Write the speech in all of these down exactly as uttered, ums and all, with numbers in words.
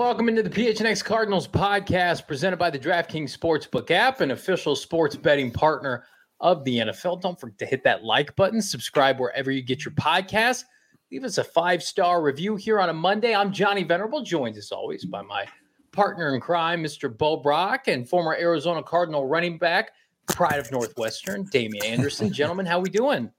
welcome into the P H N X Cardinals podcast presented by the DraftKings Sportsbook app, an official sports betting partner of the N F L. Don't forget to hit that like button, subscribe wherever you get your podcasts. Leave us a five-star review here on a Monday. I'm Johnny Venerable, joined as always by my partner in crime, Mister Bo Brock, and former Arizona Cardinal running back, pride of Northwestern, Damian Anderson. Gentlemen, how we doing?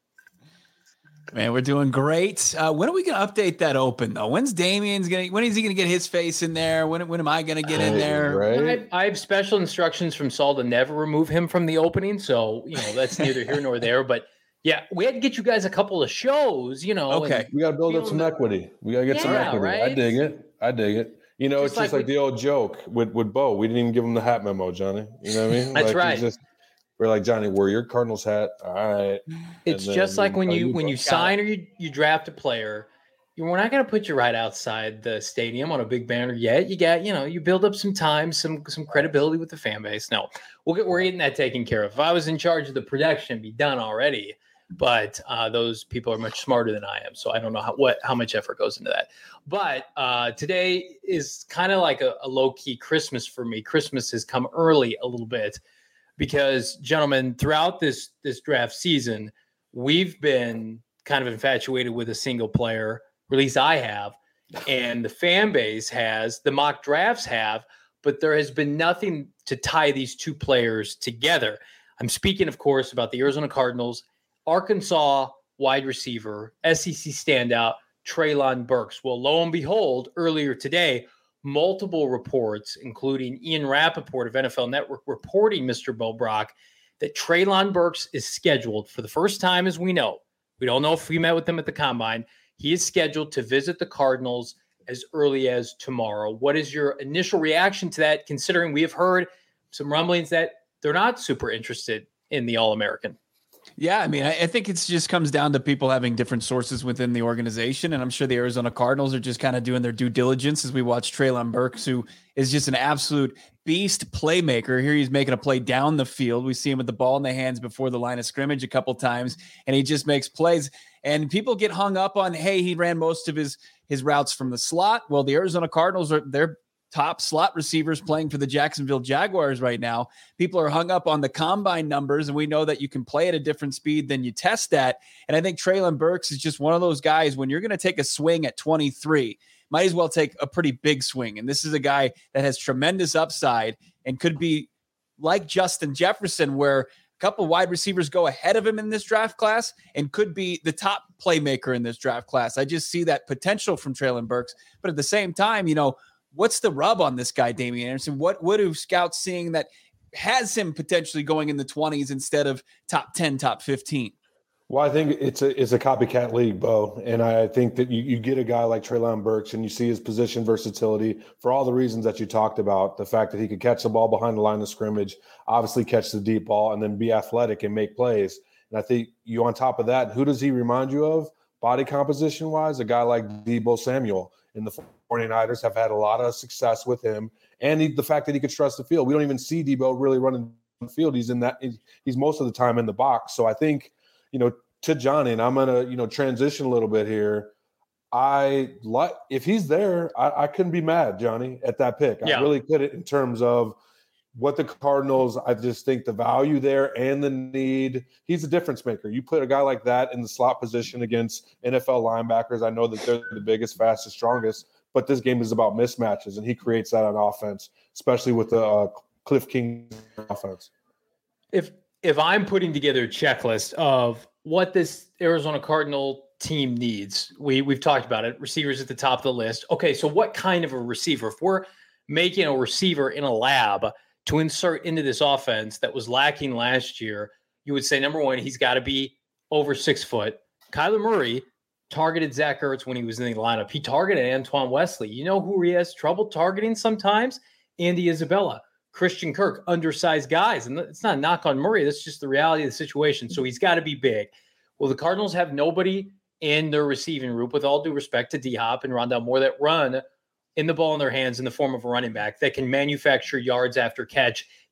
Man, we're doing great. Uh, when are we going to update that open, though? When's Damian's going to, when is he going to get his face in there? When, when am I going to get in there? Right? I, I have special instructions from Saul to never remove him from the opening. So, you know, that's neither here nor there. But yeah, we had to get you guys a couple of shows, you know. Okay. We got to build up some equity. We got to get yeah, some equity. Right? I dig it. I dig it. You know, Just it's just like, like we, the old joke with, with Bo. We didn't even give him the hat memo, Johnny. You know what I mean? That's like, right. Just, we're like, Johnny, wear your Cardinals hat. All right. It's then, just like when you, you when you sign or you, you draft a player, you, we're not going to put you right outside the stadium on a big banner yet. You got, you know, you build up some time, some some credibility with the fan base. No, we'll get, we're getting that taken care of. If I was in charge of the production, it'd be done already. But uh, those people are much smarter than I am, so I don't know how what how much effort goes into that. But uh, today is kind of like a, a low-key Christmas for me. Christmas has come early a little bit because, gentlemen, throughout this this draft season, we've been kind of infatuated with a single player, or at least I have, and the fan base has, the mock drafts have, but there has been nothing to tie these two players together. I'm speaking, of course, about the Arizona Cardinals, Arkansas wide receiver, S E C standout, Treylon Burks. Well, lo and behold, earlier today, multiple reports, including Ian Rappaport of N F L Network, reporting, Mister Bo Brock, that Treylon Burks is scheduled for the first time, as we know. We don't know if we met with them at the Combine. He is scheduled to visit the Cardinals as early as tomorrow. What is your initial reaction to that, considering we have heard some rumblings that they're not super interested in the All-American? Yeah, I mean, I, I think it just comes down to people having different sources within the organization, and I'm sure the Arizona Cardinals are just kind of doing their due diligence as we watch Treylon Burks, who is just an absolute beast playmaker. Here he's making a play down the field. We see him with the ball in the hands before the line of scrimmage a couple times, and he just makes plays. And people get hung up on, hey, he ran most of his his routes from the slot. Well, the Arizona Cardinals are they're top slot receivers playing for the Jacksonville Jaguars right now. People are hung up on the combine numbers, and we know that you can play at a different speed than you test at. And I think Treylon Burks is just one of those guys, when you're going to take a swing at twenty-three, might as well take a pretty big swing. And this is a guy that has tremendous upside and could be like Justin Jefferson, where a couple wide receivers go ahead of him in this draft class and could be the top playmaker in this draft class. I just see that potential from Treylon Burks. But at the same time, you know, what's the rub on this guy, Damian Anderson? What what are scouts seeing that has him potentially going in the twenties instead of top ten, top fifteen? Well, I think it's a it's a copycat league, Bo. And I think that you, you get a guy like Treylon Burks and you see his position versatility for all the reasons that you talked about. The fact that he could catch the ball behind the line of scrimmage, obviously catch the deep ball, and then be athletic and make plays. And I think you on top of that, who does he remind you of body composition-wise? A guy like Deebo Samuel. And the 49ers have had a lot of success with him. And he, the fact that he could trust the field. We don't even see Deebo really running the field. He's in that. He's most of the time in the box. So I think, you know, to Johnny, and I'm going to, you know, transition a little bit here. I like, if he's there, I, I couldn't be mad, Johnny, at that pick. Yeah. I really couldn't, in terms of what the Cardinals, I just think the value there and the need. He's a difference maker. You put a guy like that in the slot position against N F L linebackers. I know that they're the biggest, fastest, strongest, but this game is about mismatches, and he creates that on offense, especially with the uh, Cliff King offense. If if I'm putting together a checklist of what this Arizona Cardinal team needs, we we've talked about it. Receivers at the top of the list. Okay, so what kind of a receiver? If we're making a receiver in a lab to insert into this offense that was lacking last year, you would say, number one, he's got to be over six foot. Kyler Murray targeted Zach Ertz when he was in the lineup. He targeted Antoine Wesley. You know who he has trouble targeting sometimes? Andy Isabella, Christian Kirk, undersized guys. And it's not a knock on Murray. That's just the reality of the situation. So he's got to be big. Well, the Cardinals have nobody in their receiving group, with all due respect to D-Hop and Rondell Moore, that run in the ball in their hands in the form of a running back that can manufacture yards after catch,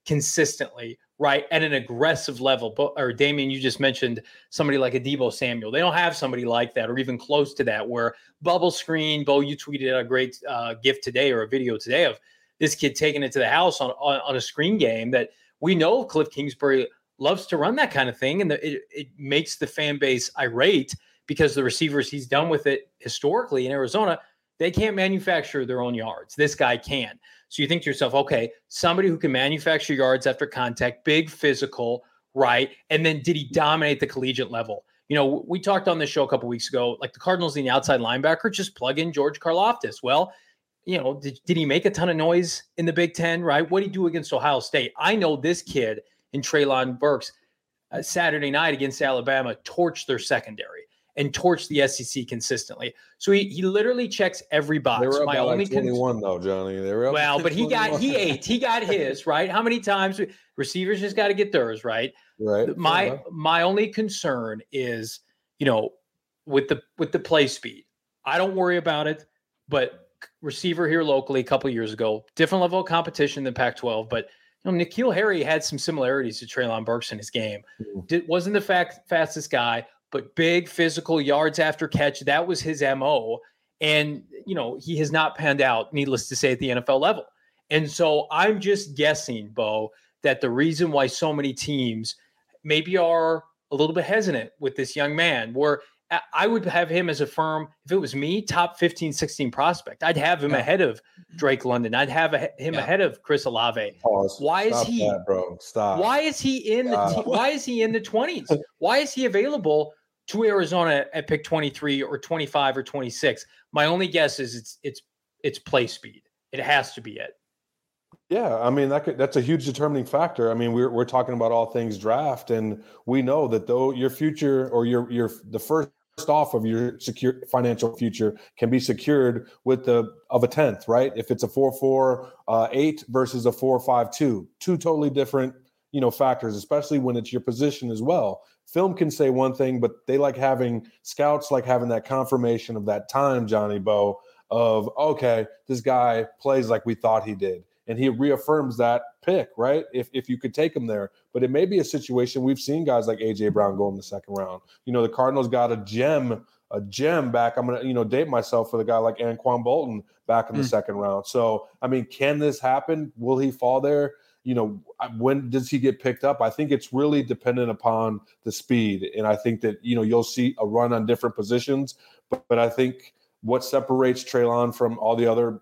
consistently, right, at an aggressive level. But, or Damian, you just mentioned somebody like a Deebo Samuel. They don't have somebody like that or even close to that where bubble screen. Bo, you tweeted a great uh, gift today or a video today of this kid taking it to the house on, on, on a screen game that we know Cliff Kingsbury loves to run that kind of thing. And the, it, it makes the fan base irate because the receivers he's done with it historically in Arizona, they can't manufacture their own yards. This guy can. So you think to yourself, okay, somebody who can manufacture yards after contact, big physical, right? And then did he dominate the collegiate level? You know, we talked on this show a couple weeks ago, like the Cardinals need the outside linebacker, just plug in George Karlaftis. Well, you know, did, did he make a ton of noise in the Big Ten, right? What did he do against Ohio State? I know this kid in Treylon Burks uh, Saturday night against Alabama torched their secondary and torched the S E C consistently. So he he literally checks every box. They were up My by only like twenty-one though, Johnny. They were up well, but he got twenty-one. he ate. He got his, right? How many times receivers just got to get theirs, right? Right. My yeah. my only concern is, you know, with the with the play speed. I don't worry about it, but receiver here locally a couple of years ago, different level of competition than Pac twelve, but you know, N'Keal Harry had some similarities to Treylon Burks in his game. Mm-hmm. Did, wasn't the fact, fastest guy, but big physical yards after catch. That was his M O. And, you know, he has not panned out, needless to say, at the N F L level. And so I'm just guessing, Bo, that the reason why so many teams maybe are a little bit hesitant with this young man, where I would have him as a firm, if it was me, top fifteen, sixteen prospect. I'd have him yeah. ahead of Drake London. I'd have a, him yeah. ahead of Chris Olave. Pause. Why Stop is he, that, bro? Stop. Why is he in the, t- why is he in the twenties? Why is he available to Arizona at pick twenty-three or twenty-five or twenty-six? My only guess is it's, it's, it's play speed. It has to be it. Yeah, I mean that could, that's a huge determining factor. I mean, we're we're talking about all things draft, and we know that though your future or your your the first off of your secure financial future can be secured with the of a tenth, right? If it's a four four uh, eight versus a four five two, two totally different you know factors, especially when it's your position as well. Film can say one thing, but they like having scouts like having that confirmation of that time, Johnny Bo, of okay, this guy plays like we thought he did. And he reaffirms that pick, right? If if you could take him there. But it may be a situation we've seen guys like A J Brown go in the second round. You know, the Cardinals got a gem, a gem back. I'm going to, you know, date myself for the guy like Anquan Bolton back in the mm. second round. So, I mean, can this happen? Will he fall there? You know, when does he get picked up? I think it's really dependent upon the speed. And I think that, you know, you'll see a run on different positions. But, but I think what separates Treylon from all the other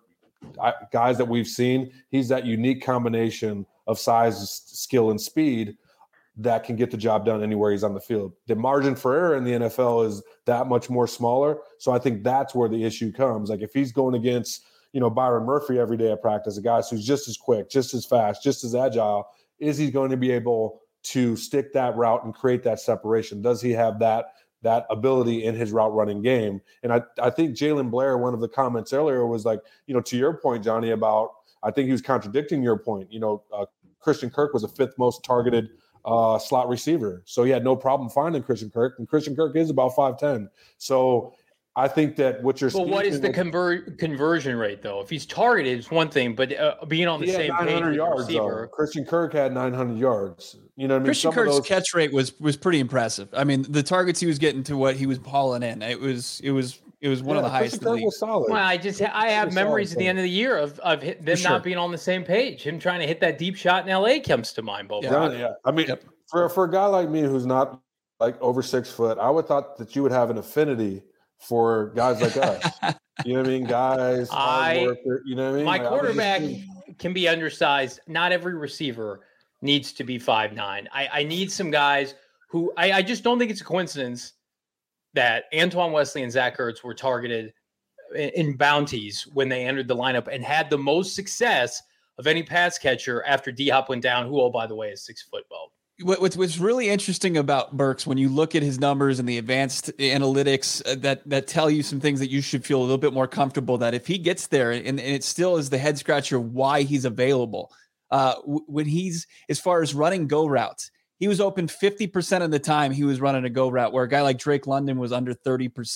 guys that we've seen, he's that unique combination of size, skill, and speed that can get the job done anywhere he's on the field. The margin for error in the N F L is that much more smaller. So I think that's where the issue comes. Like if he's going against, you know, Byron Murphy every day at practice, a guy who's just as quick, just as fast, just as agile, is he going to be able to stick that route and create that separation? Does he have that that ability in his route running game? And I, I think Jalen Blair, one of the comments earlier was like, you know, to your point, Johnny, about, I think he was contradicting your point. You know, uh, Christian Kirk was the fifth most targeted uh, slot receiver. So he had no problem finding Christian Kirk, and Christian Kirk is about five ten. So I think that what you're Well, what is the conver- conversion rate, though? If he's targeted, it's one thing, but uh, being on the same page with yards, the receiver. Though. Christian Kirk had nine hundred yards. You know what I mean? Christian Some Kirk's those... catch rate was was pretty impressive. I mean, the targets he was getting to what he was hauling in, it was it was it was one yeah, of the highest in the league. Was solid. Well, I just I have memories at the end of the year of of them not sure. being on the same page. Him trying to hit that deep shot in L A comes to mind, Bo. Yeah, yeah. I mean, yep. for for a guy like me who's not like over six foot, I would thought that you would have an affinity for guys like us. You know what I mean? Guys, hard I, worker, you know what I mean? My like, quarterback just... can be undersized. Not every receiver needs to be five nine. I, I need some guys who I, I just don't think it's a coincidence that Antoine Wesley and Zach Ertz were targeted in, in bounties when they entered the lineup and had the most success of any pass catcher after D-Hop went down, who, oh, by the way, is six foot, Bo. What's what's really interesting about Burks, when you look at his numbers and the advanced analytics that that tell you some things that you should feel a little bit more comfortable that if he gets there, and, and it still is the head scratcher why he's available. Uh, when he's, as far as running go routes, he was open fifty percent of the time he was running a go route, where a guy like Drake London was under thirty percent.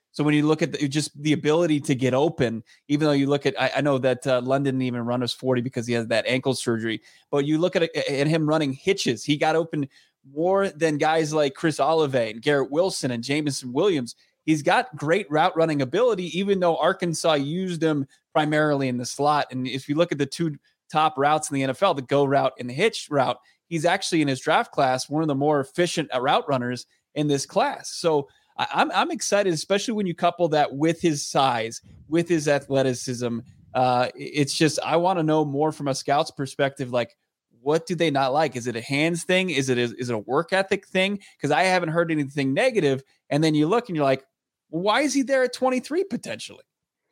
So when you look at the, just the ability to get open, even though you look at, I, I know that uh, London didn't even run his forty because he has that ankle surgery, but you look at, at him running hitches. He got open more than guys like Chris Olave and Garrett Wilson and Jameson Williams. He's got great route running ability, even though Arkansas used him primarily in the slot. And if you look at the two top routes in the N F L, the go route and the hitch route, he's actually in his draft class one of the more efficient route runners in this class. So I'm I'm excited, especially when you couple that with his size, with his athleticism. Uh, it's just, I want to know more from a scout's perspective. Like, what do they not like? Is it a hands thing? Is it a, is it a work ethic thing? Because I haven't heard anything negative. And then you look and you're like, well, why is he there at twenty-three potentially?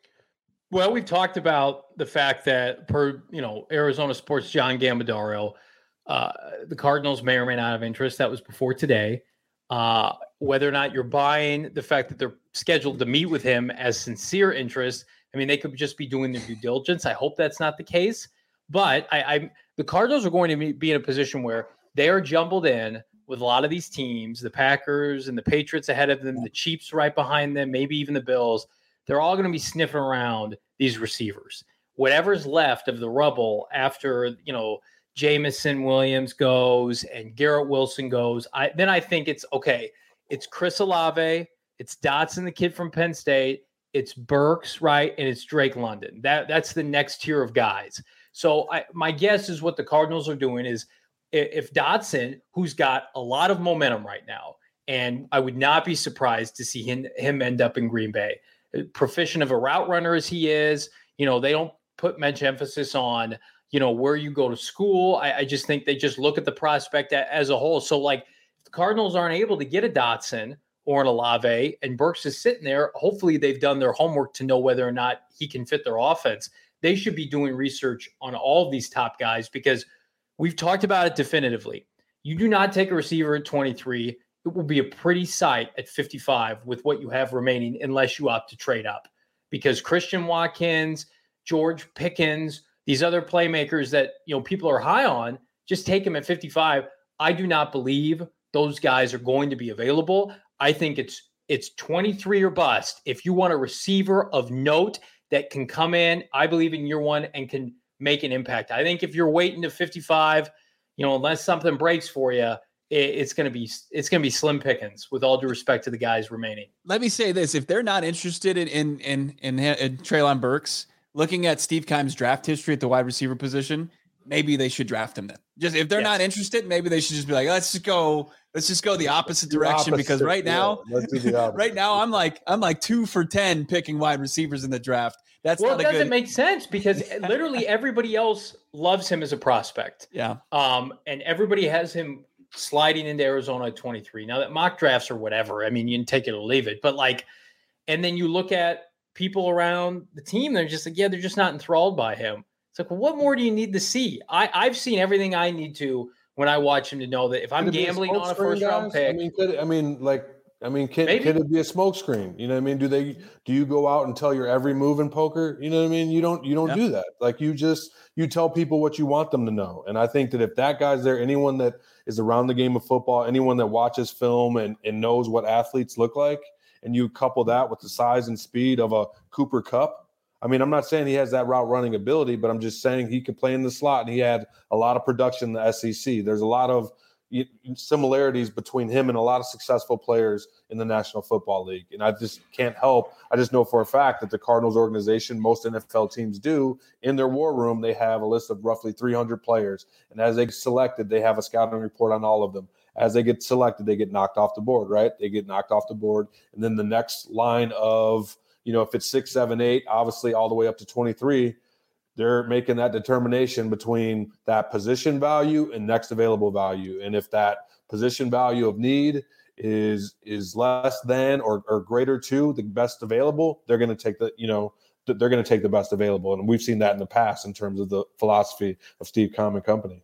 Well, we've talked about the fact that per, you know, Arizona Sports' John Gambadaro, uh, the Cardinals may or may not have interest. That was before today. Uh, whether or not you're buying the fact that they're scheduled to meet with him as sincere interest. I mean, they could just be doing their due diligence. I hope that's not the case. But I, I the Cardinals are going to be in a position where they are jumbled in with a lot of these teams, the Packers and the Patriots ahead of them, the Chiefs right behind them, maybe even the Bills. They're all going to be sniffing around these receivers. Whatever's left of the rubble after, you know, Jameson Williams goes and Garrett Wilson goes, I then I think it's okay. It's Chris Olave, it's Dotson, the kid from Penn State, it's Burks, right, and it's Drake London. That that's the next tier of guys. So I, my guess is what the Cardinals are doing is if Dotson, who's got a lot of momentum right now, and I would not be surprised to see him, him end up in Green Bay, proficient of a route runner as he is, you know, they don't put much emphasis on, you know, where you go to school. I, I just think they just look at the prospect as a whole. So, like, if the Cardinals aren't able to get a Dotson or an Olave and Burks is sitting there, hopefully they've done their homework to know whether or not he can fit their offense. They should be doing research on all of these top guys because we've talked about it definitively. You do not take a receiver at twenty-three. It will be a pretty sight at fifty-five with what you have remaining unless you opt to trade up. Because Christian Watkins, George Pickens, these other playmakers that, you know, people are high on, just take them at fifty-five. I do not believe those guys are going to be available. I think it's it's twenty-three or bust. If you want a receiver of note that can come in, I believe in year one and can make an impact. I think if you're waiting to fifty-five, you know, unless something breaks for you, it, it's going to be it's going to be slim pickings. With all due respect to the guys remaining. Let me say this: if they're not interested in in in in, in Treylon Burks, looking at Steve Keim's draft history at the wide receiver position, maybe they should draft him then. Just if they're yes. not interested, maybe they should just be like, let's just go, let's just go the opposite direction. Opposite, because right now, yeah, right now I'm like, I'm like two for ten picking wide receivers in the draft. That's well, not it a doesn't good... make sense because literally everybody else loves him as a prospect. Yeah. Um, and everybody has him sliding into Arizona at twenty-three. Now that mock drafts or whatever, I mean, you can take it or leave it, but like, and then you look at people around the team, they're just like, yeah, they're just not enthralled by him. It's like, well, what more do you need to see? I, I've seen everything I need to when I watch him to know that if I'm gambling on a first round pick. I mean, could, I mean, like, I mean, can, can it be a smokescreen? You know what I mean? Do they, do you go out and tell your every move in poker? You know what I mean? You don't, you don't yep. do that. Like you just, you tell people what you want them to know. And I think that if that guy's there, anyone that is around the game of football, anyone that watches film and, and knows what athletes look like, and you couple that with the size and speed of a Cooper Kupp. I mean, I'm not saying he has that route running ability, but I'm just saying he could play in the slot and he had a lot of production in the S E C. There's a lot of similarities between him and a lot of successful players in the National Football League. And I just can't help. I just know for a fact that the Cardinals organization, most N F L teams do, in their war room, they have a list of roughly three hundred players. And as they get selected, they have a scouting report on all of them. As they get selected, they get knocked off the board, right? They get knocked off the board. And then the next line of, you know, if it's six, seven, eight, obviously all the way up to twenty-three, they're making that determination between that position value and next available value. And if that position value of need is is less than or, or greater to the best available, they're going to take the, you know, they're going to take the best available. And we've seen that in the past in terms of the philosophy of Steve Keim and company.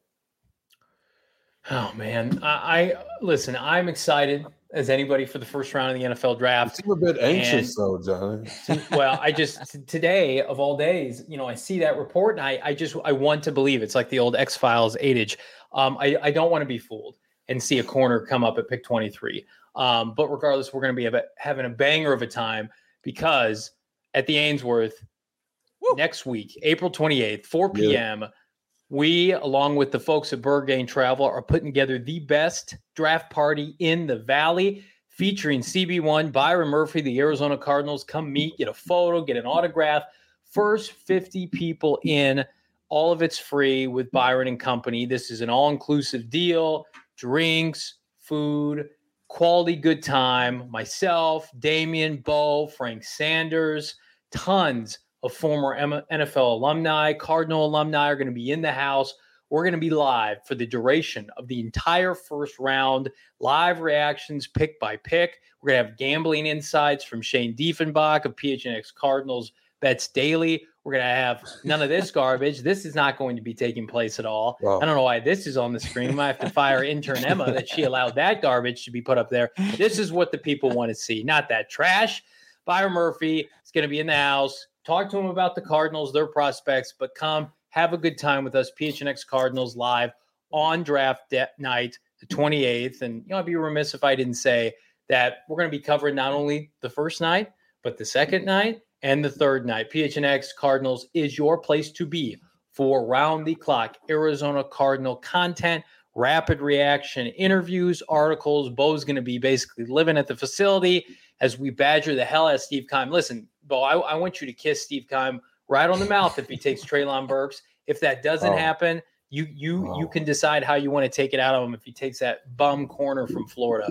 Oh man, I, I listen. I'm excited as anybody for the first round of the N F L draft. You seem a bit anxious, and, though, Johnny. Well, I just today of all days, you know, I see that report and I, I just I want to believe it's like the old X-Files adage. Um, I, I don't want to be fooled and see a corner come up at pick twenty-three. Um, but regardless, we're going to be having a banger of a time. because at the Ainsworth Woo. next week, April twenty-eighth, four p.m., yeah. we, along with the folks at Burgain Travel, are putting together the best draft party in the Valley, featuring C B one, Byron Murphy, the Arizona Cardinals. Come meet, get a photo, get an autograph. First fifty people in. All of it's free with Byron and company. This is an all-inclusive deal. Drinks, food, quality good time. Myself, Damian, Bo, Frank Sanders, tons of former N F L alumni, Cardinal alumni are going to be in the house. We're going to be live for the duration of the entire first round, live reactions pick by pick. We're going to have gambling insights from Shane Diefenbach of P H N X Cardinals Bets Daily. We're going to have none of this garbage. This is not going to be taking place at all. Wow. I don't know why this is on the screen. I might have to fire intern Emma that she allowed that garbage to be put up there. This is what the people want to see, not that trash. Byron Murphy is going to be in the house. Talk to him about the Cardinals, their prospects, but come have a good time with us. P H N X Cardinals live on draft de- night, the twenty-eighth. And you know, I'd be remiss if I didn't say that we're going to be covering not only the first night, but the second night and the third night. P H N X Cardinals is your place to be for round-the-clock Arizona Cardinal content, rapid reaction interviews, articles. Bo's going to be basically living at the facility as we badger the hell out of Steve Keim. Listen, Bo, I, I want you to kiss Steve Keim right on the mouth if he takes Treylon Burks. If that doesn't oh. happen, you you oh. you can decide how you want to take it out of him if he takes that bum corner from Florida.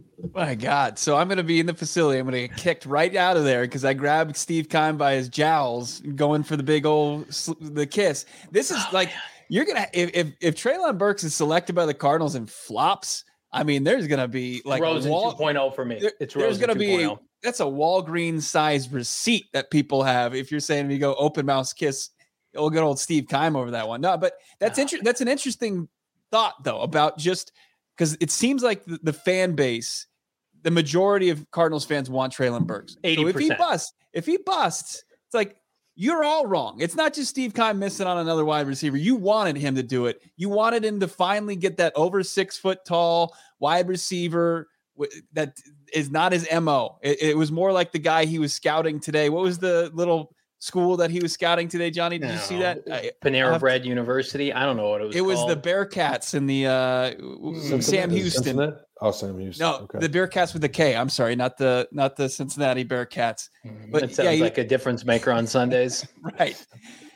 My God. So I'm going to be in the facility. I'm going to get kicked right out of there because I grabbed Steve Keim by his jowls going for the big old the kiss. This is oh, like man. You're going to if, if if Treylon Burks is selected by the Cardinals and flops, I mean, there's going to be like Rosen a wall, two point oh for me. There, it's there's going to be a, that's a Walgreens sized receipt that people have. If you're saying we go open mouth kiss, we'll get old Steve Keim over that one. No, but that's oh, inter- that's an interesting thought though about just because it seems like the, the fan base, the majority of Cardinals fans want Treylon Burks. eighty percent. So if he busts, if he busts, it's like you're all wrong. It's not just Steve Keim missing on another wide receiver. You wanted him to do it. You wanted him to finally get that over six foot tall wide receiver that is not his M O. It, it was more like the guy he was scouting today. What was the little school that he was scouting today, Johnny? Did no. you see that? Panera Bread to, University. I don't know what it was. It called. was the Bearcats in the uh, Cincinnati, Sam Houston. Cincinnati? Oh, Sam Houston. No, okay. The Bearcats with the K. I'm sorry, not the not the Cincinnati Bearcats. But it sounds yeah, he, like a difference maker on Sundays, right?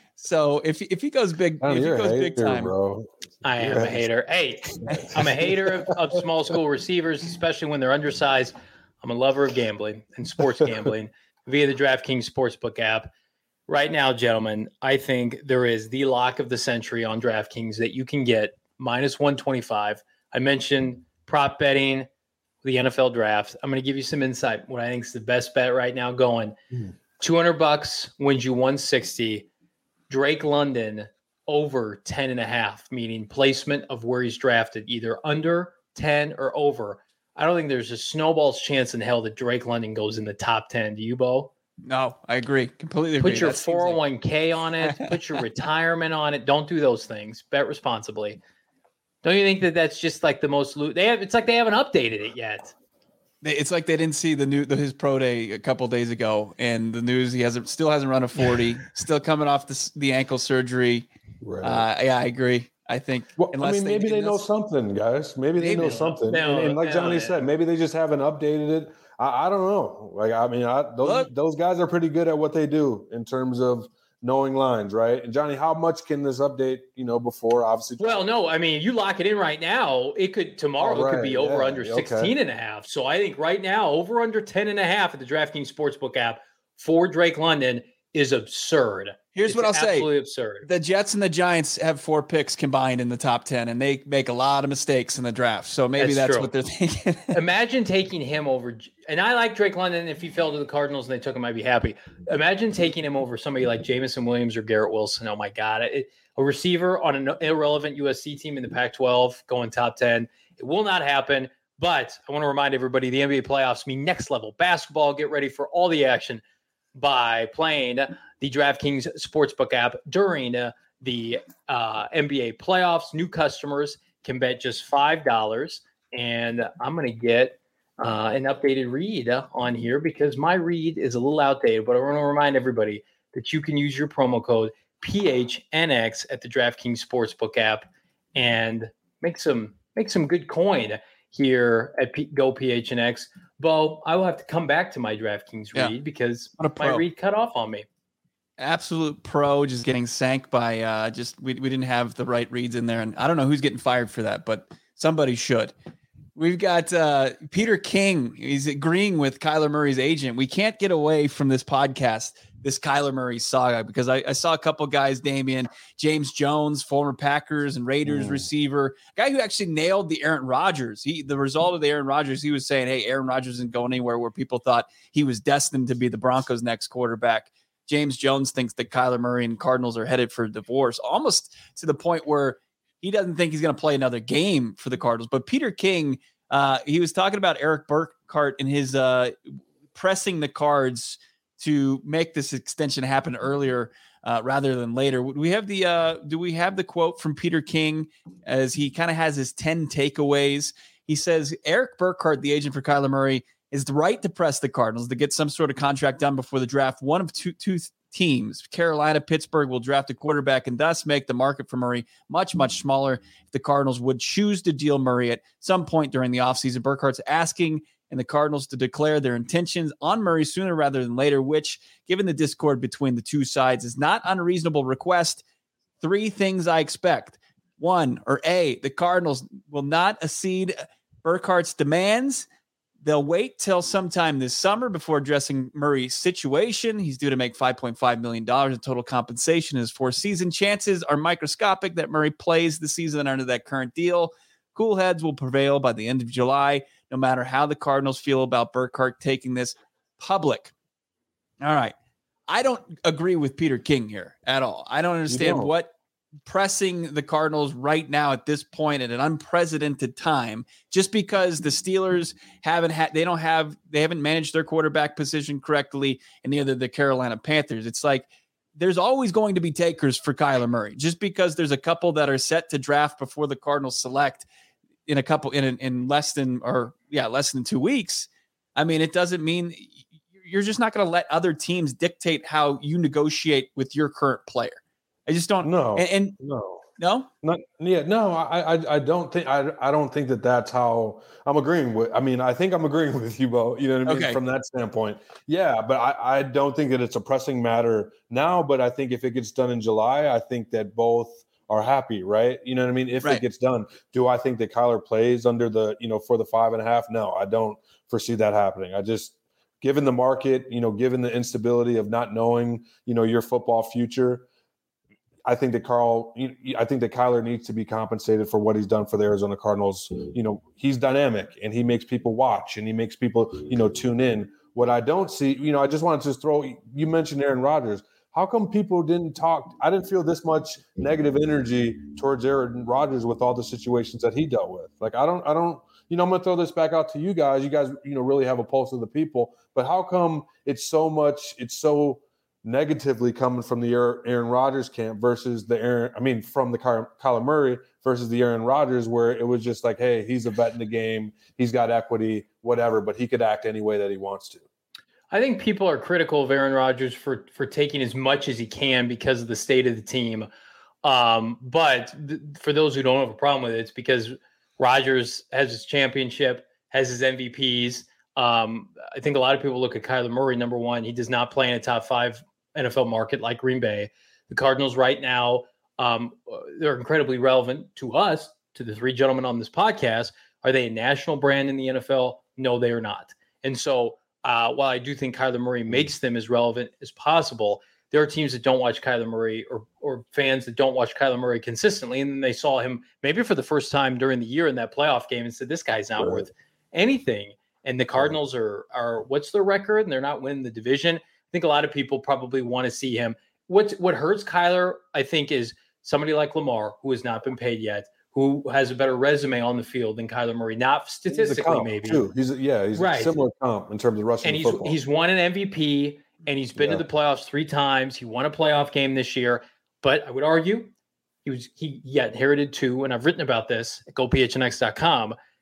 So if if he goes big, oh, if he goes hater, big time, bro. I am a hater. Hey, I'm a hater of, of small school receivers, especially when they're undersized. I'm a lover of gambling and sports gambling via the DraftKings Sportsbook app. Right now, gentlemen, I think there is the lock of the century on DraftKings that you can get minus one twenty-five. I mentioned prop betting, the N F L draft. I'm going to give you some insight. What I think is the best bet right now going. Mm. two hundred bucks wins you one sixty. Drake London over ten and a half, meaning placement of where he's drafted, either under ten or over. I don't think there's a snowball's chance in hell that Drake London goes in the top ten. Do you, Bo? No, I agree. Completely agree. Put your four oh one k like... on it. Put your retirement on it. Don't do those things. Bet responsibly. Don't you think that that's just like the most loot? They have. It's like they haven't updated it yet. It's like they didn't see the new the, his pro day a couple days ago, and the news he hasn't still hasn't run a forty. Still coming off the the ankle surgery. Right. Uh, yeah, I agree. I think. Well, I mean, maybe they, they know something, guys. Maybe, maybe they know something. No, and, and like no, Johnny no, said, maybe they just haven't updated it. I, I don't know. Like, I mean, I, those Look. those guys are pretty good at what they do in terms of knowing lines, right? And Johnny, how much can this update, you know, before obviously? Well, no, I mean, you lock it in right now. It could tomorrow. Oh, right. It could be over yeah. under sixteen okay. and a half. So I think right now over under ten and a half at the DraftKings Sportsbook app for Drake London is absurd. Here's it's what I'll say. Absolutely absurd. The Jets and the Giants have four picks combined in the top ten, and they make a lot of mistakes in the draft. So maybe that's, that's what they're thinking. Imagine taking him over. And I like Drake London. If he fell to the Cardinals and they took him, I'd be happy. Imagine taking him over somebody like Jameson Williams or Garrett Wilson. Oh, my God. It, a receiver on an irrelevant U S C team in the Pac twelve going top ten. It will not happen. But I want to remind everybody the N B A playoffs mean next level basketball. Get ready for all the action by playing the DraftKings Sportsbook app during uh, the uh, N B A playoffs. New customers can bet just five dollars, and I'm going to get uh, an updated read on here because my read is a little outdated, but I want to remind everybody that you can use your promo code P H N X at the DraftKings Sportsbook app and make some make some good coin here at P- Go P H N X. Bo, I will have to come back to my DraftKings yeah. read because my read cut off on me. Absolute pro, just getting sank by uh, just we we didn't have the right reads in there, and I don't know who's getting fired for that, but somebody should. We've got uh, Peter King. He's agreeing with Kyler Murray's agent. We can't get away from this podcast, this Kyler Murray saga, because I, I saw a couple guys, Damian, James Jones, former Packers and Raiders mm. receiver, guy who actually nailed the Aaron Rodgers. He, the result of the Aaron Rodgers, he was saying, hey, Aaron Rodgers isn't going anywhere, where people thought he was destined to be the Broncos' next quarterback. James Jones thinks that Kyler Murray and Cardinals are headed for divorce, almost to the point where he doesn't think he's going to play another game for the Cardinals. But Peter King, uh, he was talking about Eric Burkhart and his uh, pressing the Cards to make this extension happen earlier uh, rather than later. Do we have the uh, do we have the quote from Peter King as he kind of has his ten takeaways? He says Eric Burkhart, the agent for Kyler Murray, is the right to press the Cardinals to get some sort of contract done before the draft. One of two two. teams, Carolina, Pittsburgh, will draft a quarterback and thus make the market for Murray much, much smaller if the Cardinals would choose to deal Murray at some point during the offseason. Burkhart's asking and the Cardinals to declare their intentions on Murray sooner rather than later, which, given the discord between the two sides, is not unreasonable request. Three things I expect. One, or A, the Cardinals will not accede Burkhart's demands. They'll wait till sometime this summer before addressing Murray's situation. He's due to make five point five million dollars in total compensation in his fourth season. Chances are microscopic that Murray plays the season under that current deal. Cool heads will prevail by the end of July, no matter how the Cardinals feel about Burkhart taking this public. All right. I don't agree with Peter King here at all. I don't understand what pressing the Cardinals right now at this point at an unprecedented time, just because the Steelers haven't had, they don't have, they haven't managed their quarterback position correctly, and neither the Carolina Panthers. It's like there's always going to be takers for Kyler Murray, just because there's a couple that are set to draft before the Cardinals select in a couple in in less than or yeah less than two weeks. I mean, it doesn't mean you're just not going to let other teams dictate how you negotiate with your current player. I just don't know. And, and no, no, not yeah, no. I, I, I don't think I, I don't think that that's how I'm agreeing with. I mean, I think I'm agreeing with you, Bo. You know what I mean? Okay. From that standpoint, yeah. But I, I don't think that it's a pressing matter now. But I think if it gets done in July, I think that both are happy, right? You know what I mean? If right. it gets done, do I think that Kyler plays under the you know for the five and a half? No, I don't foresee that happening. I just. Given the market, you know, given the instability of not knowing, you know, your football future, I think that Carl, I think that Kyler needs to be compensated for what he's done for the Arizona Cardinals. You know, he's dynamic and he makes people watch and he makes people, you know, tune in. What I don't see, you know, I just wanted to throw, you mentioned Aaron Rodgers. How come people didn't talk? I didn't feel this much negative energy towards Aaron Rodgers with all the situations that he dealt with. Like, I don't, I don't, you know, I'm going to throw this back out to you guys. You guys, you know, really have a pulse of the people. But how come it's so much, it's so negatively coming from the Aaron Rodgers camp versus the Aaron, I mean, from the Kyler Murray versus the Aaron Rodgers, where it was just like, hey, he's a vet in the game. He's got equity, whatever, but he could act any way that he wants to. I think people are critical of Aaron Rodgers for, for taking as much as he can because of the state of the team. Um, but th- for those who don't have a problem with it, it's because Rodgers has his championship, has his M V Ps. Um, I think a lot of people look at Kyler Murray, number one. He does not play in a top five N F L market like Green Bay. The Cardinals right now, um, they're incredibly relevant to us, to the three gentlemen on this podcast. Are they a national brand in the N F L? No, they are not. And so uh, while I do think Kyler Murray makes them as relevant as possible, there are teams that don't watch Kyler Murray or or fans that don't watch Kyler Murray consistently. And then they saw him maybe for the first time during the year in that playoff game and said, this guy's not right. worth anything. And the Cardinals are, are what's their record? And they're not winning the division. I think a lot of people probably want to see him. What, what hurts Kyler, I think, is somebody like Lamar, who has not been paid yet, who has a better resume on the field than Kyler Murray. Not statistically, maybe. Too. He's a, yeah, he's right. a similar comp in terms of rushing and he's, football. He's won an M V P. And he's been yeah. to the playoffs three times. He won a playoff game this year. But I would argue he was he, he inherited two, and I've written about this at go p h n x dot com.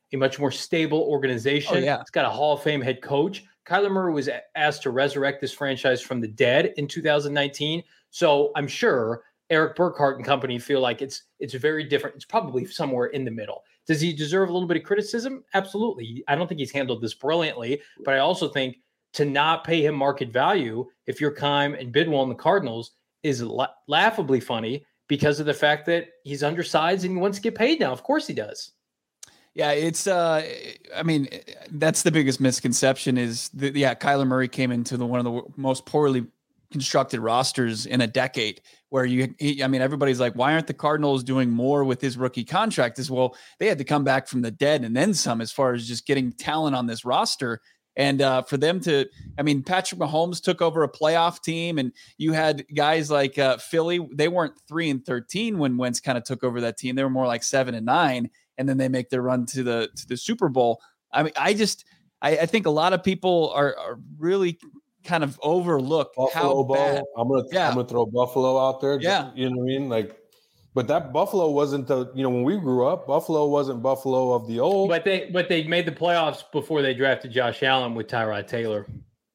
a much more stable organization. Oh, yeah. It's got a Hall of Fame head coach. Kyler Murray was asked to resurrect this franchise from the dead in two thousand nineteen. So I'm sure Eric Burkhart and company feel like it's it's very different. It's probably somewhere in the middle. Does he deserve a little bit of criticism? Absolutely. I don't think he's handled this brilliantly, but I also think to not pay him market value if you're Keim and Bidwell and the Cardinals is la- laughably funny because of the fact that he's undersized and he wants to get paid now. Of course he does. Yeah, it's, uh, I mean, that's the biggest misconception is that, yeah, Kyler Murray came into the one of the most poorly constructed rosters in a decade where you, he, I mean, everybody's like, why aren't the Cardinals doing more with his rookie contract? As well, they had to come back from the dead and then some as far as just getting talent on this roster. And uh, for them to, I mean, Patrick Mahomes took over a playoff team, and you had guys like uh, Philly. They weren't three and thirteen when Wentz kind of took over that team. They were more like seven and nine, and then they make their run to the to the Super Bowl. I mean, I just, I, I think a lot of people are, are really kind of overlook Buffalo how Bowl. bad. I'm gonna, Yeah. I'm gonna throw Buffalo out there. Yeah. You know what I mean? Like, but that Buffalo wasn't the, you know, when we grew up, Buffalo wasn't Buffalo of the old. But they but they made the playoffs before they drafted Josh Allen with Tyrod Taylor.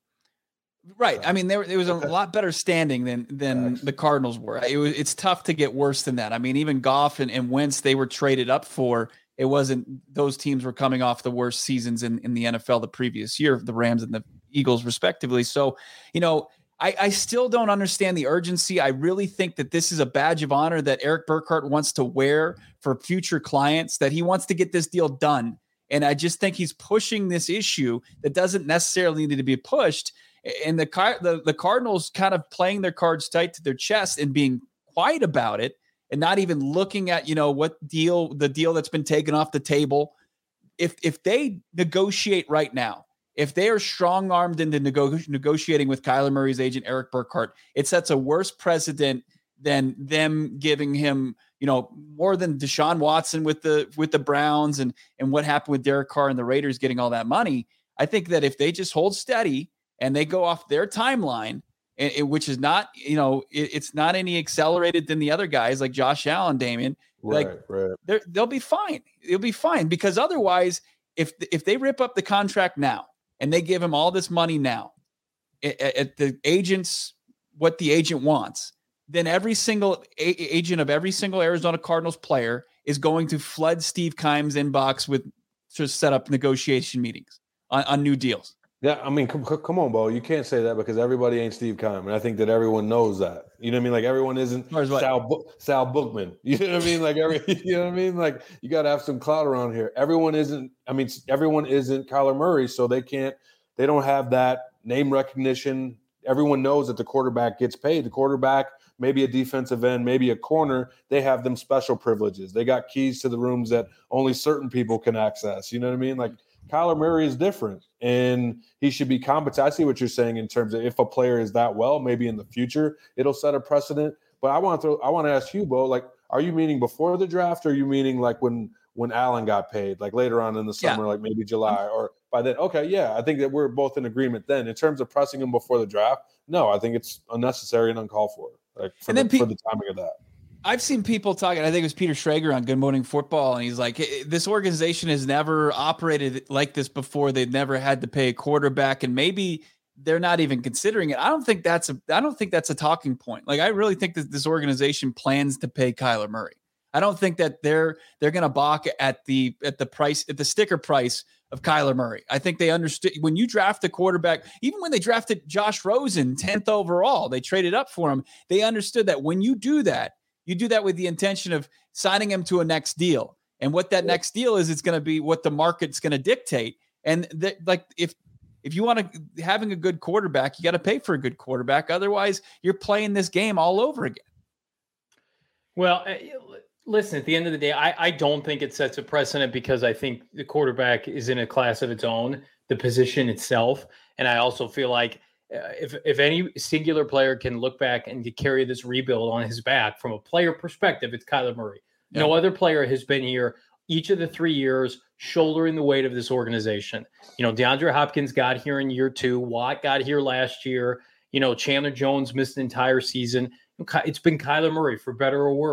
Right. I mean, there, there was a lot better standing than than the Cardinals were. It was, it's tough to get worse than that. I mean, even Goff and, and Wentz, they were traded up for. It wasn't, those teams were coming off the worst seasons in, in the N F L the previous year, the Rams and the Eagles respectively. So, you know, I, I still don't understand the urgency. I really think that this is a badge of honor that Eric Burkhart wants to wear for future clients, that he wants to get this deal done. And I just think he's pushing this issue that doesn't necessarily need to be pushed. And the, the, the Cardinals kind of playing their cards tight to their chest and being quiet about it and not even looking at, you know, what deal, the deal that's been taken off the table. If, if they negotiate right now, if they are strong-armed into nego- negotiating with Kyler Murray's agent, Eric Burkhart, it sets a worse precedent than them giving him, you know, more than Deshaun Watson with the with the Browns and, and what happened with Derek Carr and the Raiders getting all that money. I think that if they just hold steady and they go off their timeline, and, and which is not, you know, it, it's not any accelerated than the other guys like Josh Allen, Damien, right, like right. they'll be fine. It'll be fine because otherwise, if if they rip up the contract now, and they give him all this money now at, at the agents, what the agent wants, then every single a- agent of every single Arizona Cardinals player is going to flood Steve Keim's inbox with to set up negotiation meetings on, on new deals. Yeah, I mean, come, come on, Bo. You can't say that because everybody ain't Steve Keim, and I think that everyone knows that. You know what I mean? Like everyone isn't Sal, Bo- Sal Bookman. You know what I mean? Like every, you know what I mean? Like you got to have some clout around here. Everyone isn't. I mean, everyone isn't Kyler Murray, so they can't. They don't have that name recognition. Everyone knows that the quarterback gets paid. The quarterback, maybe a defensive end, maybe a corner. They have them special privileges. They got keys to the rooms that only certain people can access. You know what I mean? Like. Kyler Murray is different, and he should be competent. I see what you're saying in terms of if a player is that well, maybe in the future it'll set a precedent. But I want to, I want to ask you, Bo, like, are you meaning before the draft, or are you meaning like when when Allen got paid, like later on in the summer, yeah. like maybe July, or by then? Okay, yeah, I think that we're both in agreement then. In terms of pressing him before the draft, no, I think it's unnecessary and uncalled for, like for, the, pe- for the timing of that. I've seen people talking, I think it was Peter Schrager on Good Morning Football, and he's like, this organization has never operated like this before. They've never had to pay a quarterback, and maybe they're not even considering it. I don't think that's a I don't think that's a talking point. Like, I really think that this organization plans to pay Kyler Murray. I don't think that they're they're going to balk at the at the price at the sticker price of Kyler Murray. I think they understood when you draft a quarterback, even when they drafted Josh Rosen tenth overall, they traded up for him. They understood that when you do that, you do that with the intention of signing him to a next deal. And what that next deal is, it's going to be what the market's going to dictate. And th- like, if, if you want to having a good quarterback, you got to pay for a good quarterback. Otherwise you're playing this game all over again. Well, listen, at the end of the day, I, I don't think it sets a precedent because I think the quarterback is in a class of its own, the position itself. And I also feel like, Uh, if if any singular player can look back and to carry this rebuild on his back from a player perspective, it's Kyler Murray. Yeah. No other player has been here each of the three years shouldering the weight of this organization. You know, DeAndre Hopkins got here in year two. Watt got here last year. You know, Chandler Jones missed the entire season. It's been Kyler Murray for better or worse.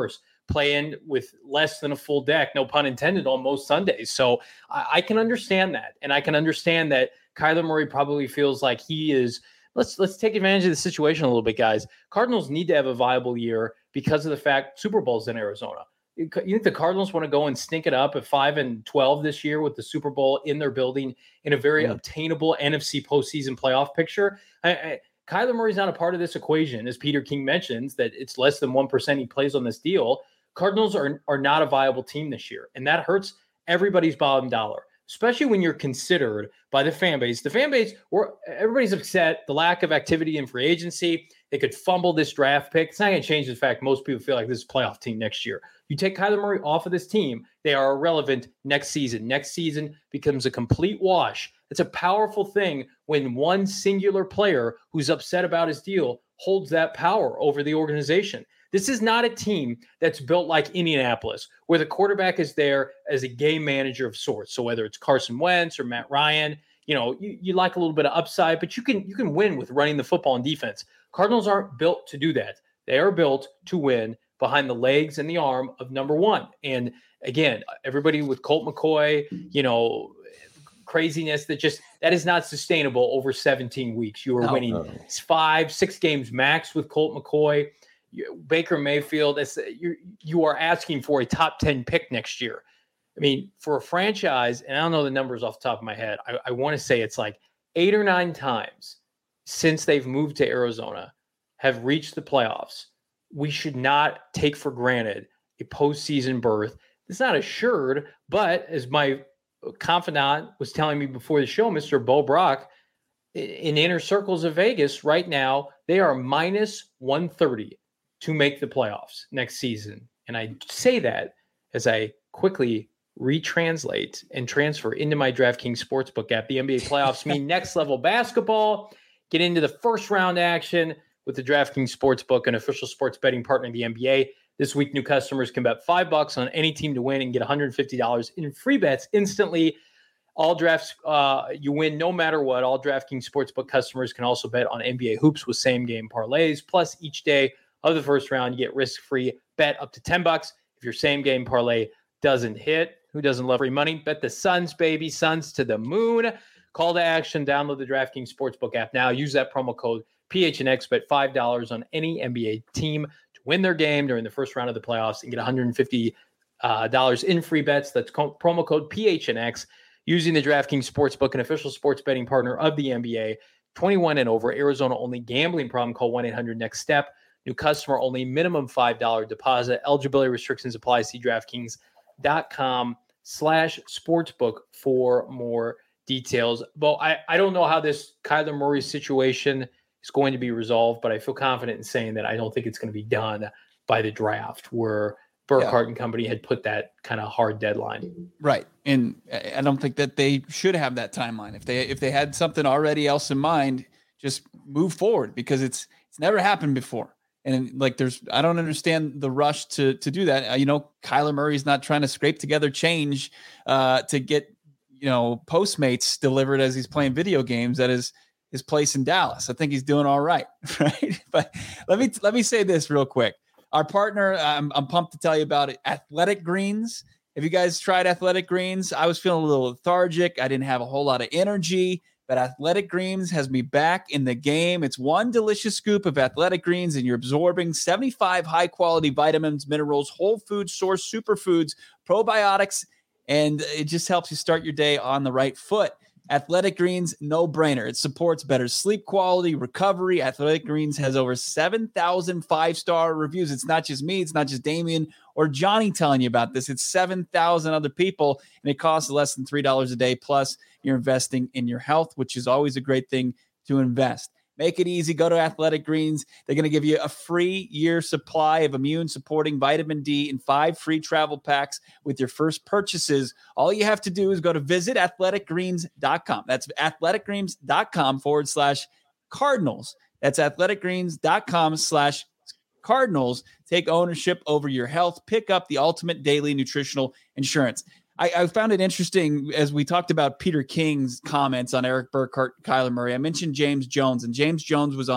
playing with less than a full deck, no pun intended, on most Sundays. So I, I can understand that. And I can understand that Kyler Murray probably feels like he is, let's let's take advantage of the situation a little bit, guys. Cardinals need to have a viable year because of the fact Super Bowl's in Arizona. You think the Cardinals want to go and stink it up at five and twelve this year with the Super Bowl in their building in a very mm. obtainable N F C postseason playoff picture? I, I, Kyler Murray's not a part of this equation, as Peter King mentions, that it's less than one percent he plays on this deal. Cardinals are, are not a viable team this year, and that hurts everybody's bottom dollar, especially when you're considered by the fan base. The fan base, or everybody's upset, the lack of activity in free agency. They could fumble this draft pick. It's not going to change the fact most people feel like this is a playoff team next year. You take Kyler Murray off of this team, they are irrelevant next season. Next season becomes a complete wash. It's a powerful thing when one singular player who's upset about his deal holds that power over the organization. This is not a team that's built like Indianapolis, where the quarterback is there as a game manager of sorts. So whether it's Carson Wentz or Matt Ryan, you know, you, you like a little bit of upside, but you can you can win with running the football and defense. Cardinals aren't built to do that. They are built to win behind the legs and the arm of number one. And again, everybody with Colt McCoy, you know, craziness that just that is not sustainable over seventeen weeks. You are no, winning no. five, six games max with Colt McCoy. You, Baker Mayfield, it's, you you are asking for a top ten pick next year. I mean, for a franchise, and I don't know the numbers off the top of my head, I, I want to say it's like eight or nine times since they've moved to Arizona have reached the playoffs. We should not take for granted a postseason berth. It's not assured, but as my confidant was telling me before the show, Mister Bo Brock, in inner circles of Vegas right now, they are minus one thirty to make the playoffs next season. And I say that as I quickly retranslate and transfer into my DraftKings Sportsbook app. The N B A playoffs mean next level basketball. Get into the first round action with the DraftKings Sportsbook, an official sports betting partner of the N B A. This week, new customers can bet five bucks on any team to win and get one hundred fifty dollars in free bets instantly. All drafts, uh, you win no matter what. All DraftKings Sportsbook customers can also bet on N B A hoops with same-game parlays. Plus, each day of the first round, you get risk-free bet up to ten bucks. If your same-game parlay doesn't hit, who doesn't love free money? Bet the Suns, baby. Suns to the moon. Call to action. Download the DraftKings Sportsbook app now. Use that promo code P H N X. Bet five dollars on any N B A team to win their game during the first round of the playoffs and get one hundred fifty dollars uh, in free bets. That's co- promo code P H N X. Using the DraftKings Sportsbook, an official sports betting partner of the N B A. twenty-one and over, Arizona only. Gambling problem, call one eight hundred next step. New customer only, minimum five dollars deposit. Eligibility restrictions apply. See DraftKings.com slash sportsbook for more details. But I, I don't know how this Kyler Murray situation is going to be resolved, but I feel confident in saying that I don't think it's going to be done by the draft, where Burkhart yeah. and company had put that kind of hard deadline. Right. And I don't think that they should have that timeline. If they if they had something already else in mind, just move forward, because it's it's never happened before. And like there's I don't understand the rush to to do that. Uh, you know, Kyler Murray's not trying to scrape together change uh, to get, you know, Postmates delivered as he's playing video games at his his place in Dallas. I think he's doing all right. Right. But let me let me say this real quick. Our partner, I'm, I'm pumped to tell you about it, Athletic Greens. Have you guys tried Athletic Greens? I was feeling a little lethargic. I didn't have a whole lot of energy, but Athletic Greens has me back in the game. It's one delicious scoop of Athletic Greens, and you're absorbing seventy-five high-quality vitamins, minerals, whole food source, superfoods, probiotics, and it just helps you start your day on the right foot. Athletic Greens, no brainer. It supports better sleep quality, recovery. Athletic Greens has over seven thousand five-star reviews. It's not just me. It's not just Damien or Johnny telling you about this. It's seven thousand other people, and it costs less than three dollars a day. Plus, you're investing in your health, which is always a great thing to invest. Make it easy. Go to Athletic Greens. They're going to give you a free year supply of immune-supporting vitamin D and five free travel packs with your first purchases. All you have to do is go to visit athletic greens dot com. That's athleticgreens.com forward slash Cardinals. That's athleticgreens.com slash Cardinals. Take ownership over your health. Pick up the ultimate daily nutritional insurance. I, I found it interesting as we talked about Peter King's comments on Eric Burkhart, Kyler Murray. I mentioned James Jones, and James Jones was on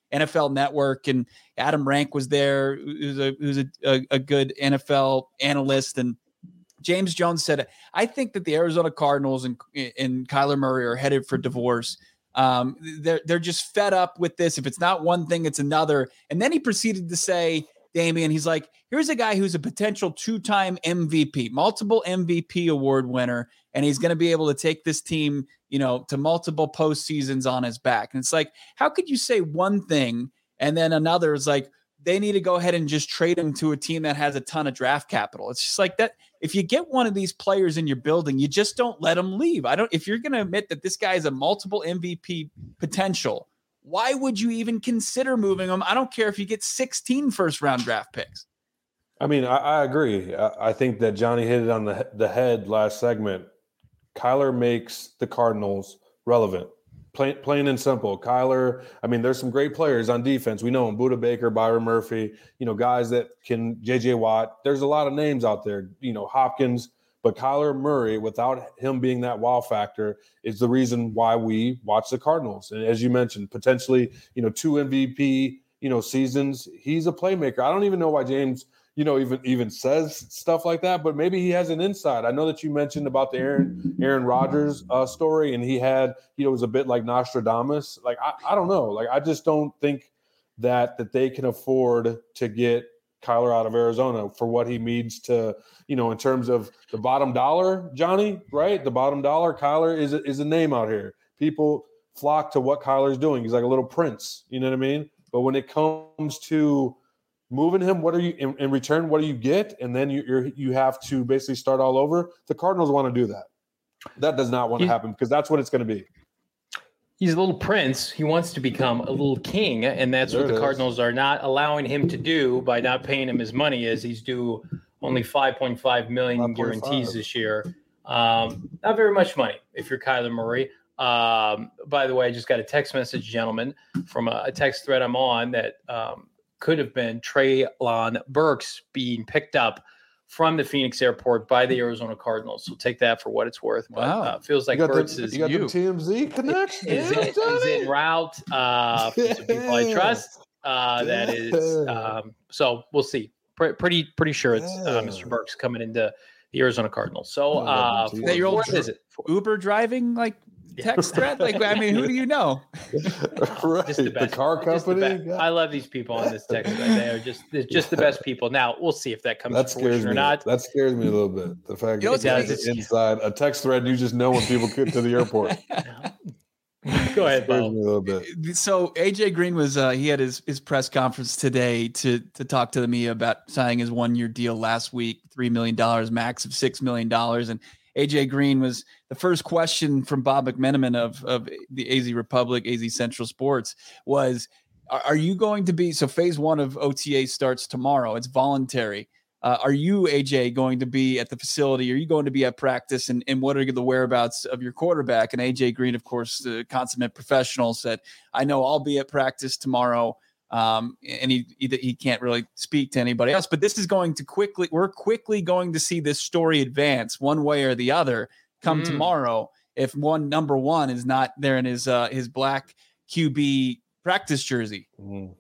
N F L Network, and Adam Rank was there, who's a who's a, a, a good N F L analyst, and James Jones said, I think that the Arizona Cardinals and, and Kyler Murray are headed for divorce. Um, they're, they're just fed up with this. If it's not one thing, it's another. And then he proceeded to say, Damian, he's like, here's a guy who's a potential two-time M V P, multiple M V P award winner, and he's going to be able to take this team, you know, to multiple postseasons on his back. And it's like, how could you say one thing and then another is like, they need to go ahead and just trade him to a team that has a ton of draft capital? It's just like that. If you get one of these players in your building, you just don't let them leave. I don't, if you're going to admit that this guy is a multiple M V P potential, why would you even consider moving him? I don't care if you get sixteen first round draft picks. I mean, I, I agree. I, I think that Johnny hit it on the, the head last segment. Kyler makes the Cardinals relevant. Plain, plain and simple. Kyler, I mean, there's some great players on defense. We know him, Budda Baker, Byron Murphy, you know, guys that can, J J Watt. There's a lot of names out there, you know, Hopkins. But Kyler Murray, without him being that wow factor, is the reason why we watch the Cardinals. And as you mentioned, potentially, you know, two M V P, you know, seasons. He's a playmaker. I don't even know why James – you know, even even says stuff like that, but maybe he has an insight. I know that you mentioned about the Aaron Aaron Rodgers uh, story, and he had, you know, it was a bit like Nostradamus. Like, I, I don't know. Like, I just don't think that that they can afford to get Kyler out of Arizona for what he means to, you know, in terms of the bottom dollar, Johnny, right? The bottom dollar, Kyler is a, is a name out here. People flock to what Kyler's doing. He's like a little prince, you know what I mean? But when it comes to moving him, what are you in, in return? What do you get? And then you you're, you have to basically start all over. The Cardinals want to do that. That does not want to happen because that's what it's going to be. He's a little prince. He wants to become a little king, and that's There what it the is. Cardinals are not allowing him to do by not paying him his money, as he's due only five point five million five point five guarantees this year. Um, not very much money if you're Kyler Murray. Um, by the way, I just got a text message, gentlemen, from a, a text thread I'm on that um, could have been Treylon Burks being picked up from the Phoenix airport by the Arizona Cardinals. So take that for what it's worth. But Wow. uh, feels like You got, Burks the, is you got you. the T M Z connection. is, Yeah, in, is Johnny. en route uh, for some people I Yeah. trust. Uh, that is Yeah. um, so we'll see. Pre- pretty pretty sure it's uh, Yeah. Mister Burks coming into the Arizona Cardinals. So I love uh, them too. for, That your old fourth visit. Uber driving, like text thread? Like, I mean, who do you know? right. Just the the, best. car Just the company. best. I love these people on this text thread. They are just they're just the best people. Now we'll see if that comes That to scares fruition me. or not. That scares me a little bit. The fact You know that what's it's funny? inside a text thread, you just know when people get to the airport. Go ahead, Scares Bo. me a little bit. So A J Green was uh, he had his his press conference today to to talk to me about signing his one year deal last week, three million dollars max of six million dollars, and A J Green was the first question from Bob McMenamin of of the A Z Republic, A Z Central Sports was, are, are you going to be so phase one of O T A starts tomorrow? It's voluntary. Uh, are you, A J, going to be at the facility? Are you going to be at practice? And, and what are the whereabouts of your quarterback? And A J Green, of course, the consummate professional, said, I know I'll be at practice tomorrow. Um, and he, he he can't really speak to anybody else. But this is going to quickly, we're quickly going to see this story advance one way or the other come Mm. tomorrow if one number one is not there in his uh, his black Q B practice jersey. Mhm.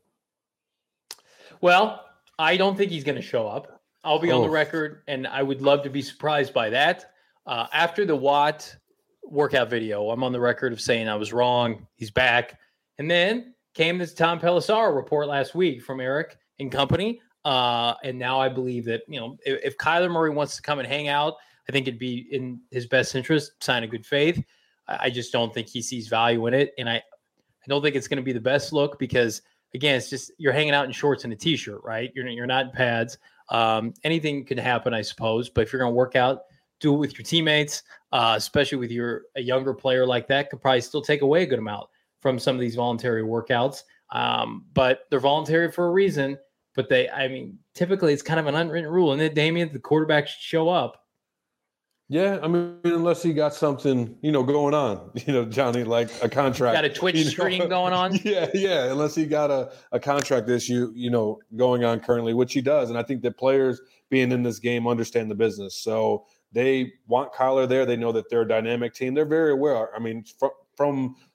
Well, I don't think he's going to show up. I'll be on the Oh. record, and I would love to be surprised by that. Uh, after the Watt workout video, I'm on the record of saying I was wrong. He's back. And then came this Tom Pelissaro report last week from Eric and company. Uh, and now I believe that, you know, if, if Kyler Murray wants to come and hang out, I think it'd be in his best interest, sign a good faith. I, I just don't think he sees value in it. And I, I don't think it's going to be the best look because, again, it's just you're hanging out in shorts and a T-shirt, right? You're, you're not in pads. Um, anything can happen, I suppose. But if you're going to work out, do it with your teammates, uh, especially with your a younger player like that, could probably still take away a good amount from some of these voluntary workouts. Um, but they're voluntary for a reason. But they, I mean, typically it's kind of an unwritten rule. And then Damian, the quarterback should show up. Yeah, I mean, unless he got something, you know, going on, you know, Johnny, like a contract. Got a Twitch you know? stream going on. Yeah, yeah. Unless he got a, a contract issue, you know, going on currently, which he does. And I think that players being in this game understand the business. So they want Kyler there. They know that they're a dynamic team. They're very aware. I mean, from, from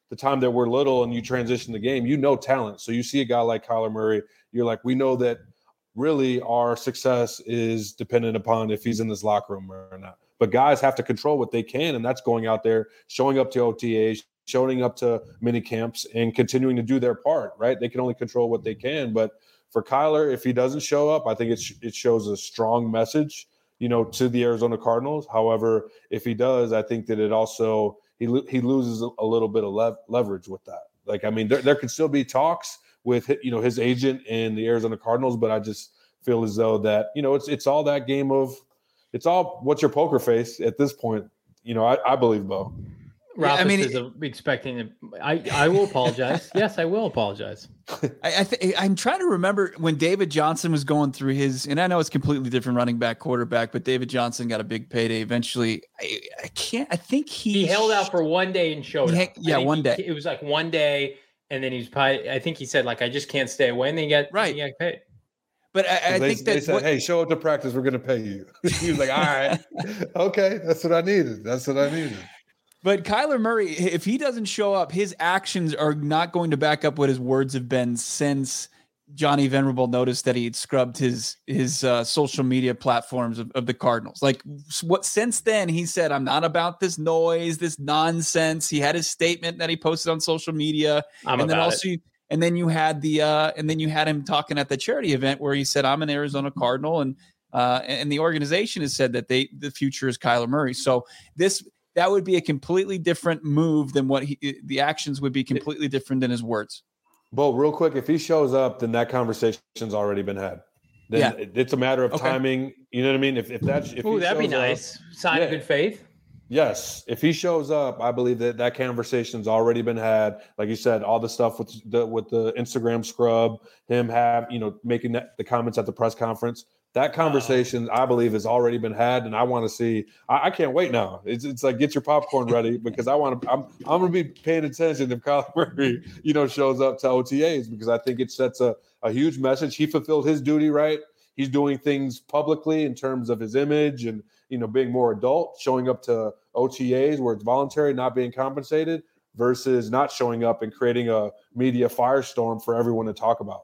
the time that we're little and you transition the game, you know talent. So you see a guy like Kyler Murray, you're like, we know that really our success is dependent upon if he's in this locker room or not. But guys have to control what they can, and that's going out there, showing up to O T As, showing up to mini camps, and continuing to do their part, right? They can only control what they can. But for Kyler, if he doesn't show up, I think it, sh- it shows a strong message, you know, to the Arizona Cardinals. However, if he does, I think that it also he lo- he loses a, a little bit of lev- leverage with that. Like, I mean, there, there could still be talks with, you know, his agent and the Arizona Cardinals, but I just feel as though that, you know, it's it's all that game of, it's all what's your poker face at this point. You know, I, I believe, Bo. Ralph yeah, I mean, is a, expecting it. I, I will apologize. Yes, I will apologize. I, I th- I'm trying to remember when David Johnson was going through his, and I know it's completely different running back, quarterback, but David Johnson got a big payday eventually. I, I can't, I think he, he held out for one day and showed he, up. Yeah, one day. He, it was like one day, and then he's probably, I think he said, like, I just can't stay away, and then he got, right. he got paid. But I, I they, think that they said, what, hey, show up to practice, we're going to pay you. He was like, all right, okay, that's what I needed. That's what I needed. But Kyler Murray, if he doesn't show up, his actions are not going to back up what his words have been since Johnny Venerable noticed that he had scrubbed his his uh, social media platforms of, of the Cardinals. Like, what since then he said, I'm not about this noise, this nonsense. He had his statement that he posted on social media. I'm and then about also it. and then you had the uh, and then you had him talking at the charity event where he said, I'm an Arizona Cardinal, and uh, and the organization has said that they the future is Kyler Murray. So this that would be a completely different move than what he, the actions would be completely different than his words. Bo, real quick, if he shows up, then that conversation's already been had. Then yeah. it's a matter of okay. timing. You know what I mean? If if that's if Ooh, that'd be nice. Up, Sign yeah. of good faith. Yes, if he shows up, I believe that that conversation's already been had. Like you said, all the stuff with the with the Instagram scrub, him have you know making that, the comments at the press conference. That conversation, uh, I believe, has already been had, and I want to see. I, I can't wait now. It's it's like get your popcorn ready because I want to. I'm I'm going to be paying attention if Kyler Murray, you know, shows up to O T As because I think it sets a a huge message. He fulfilled his duty, right? He's doing things publicly in terms of his image and you know being more adult, showing up to O T As where it's voluntary, not being compensated, versus not showing up and creating a media firestorm for everyone to talk about.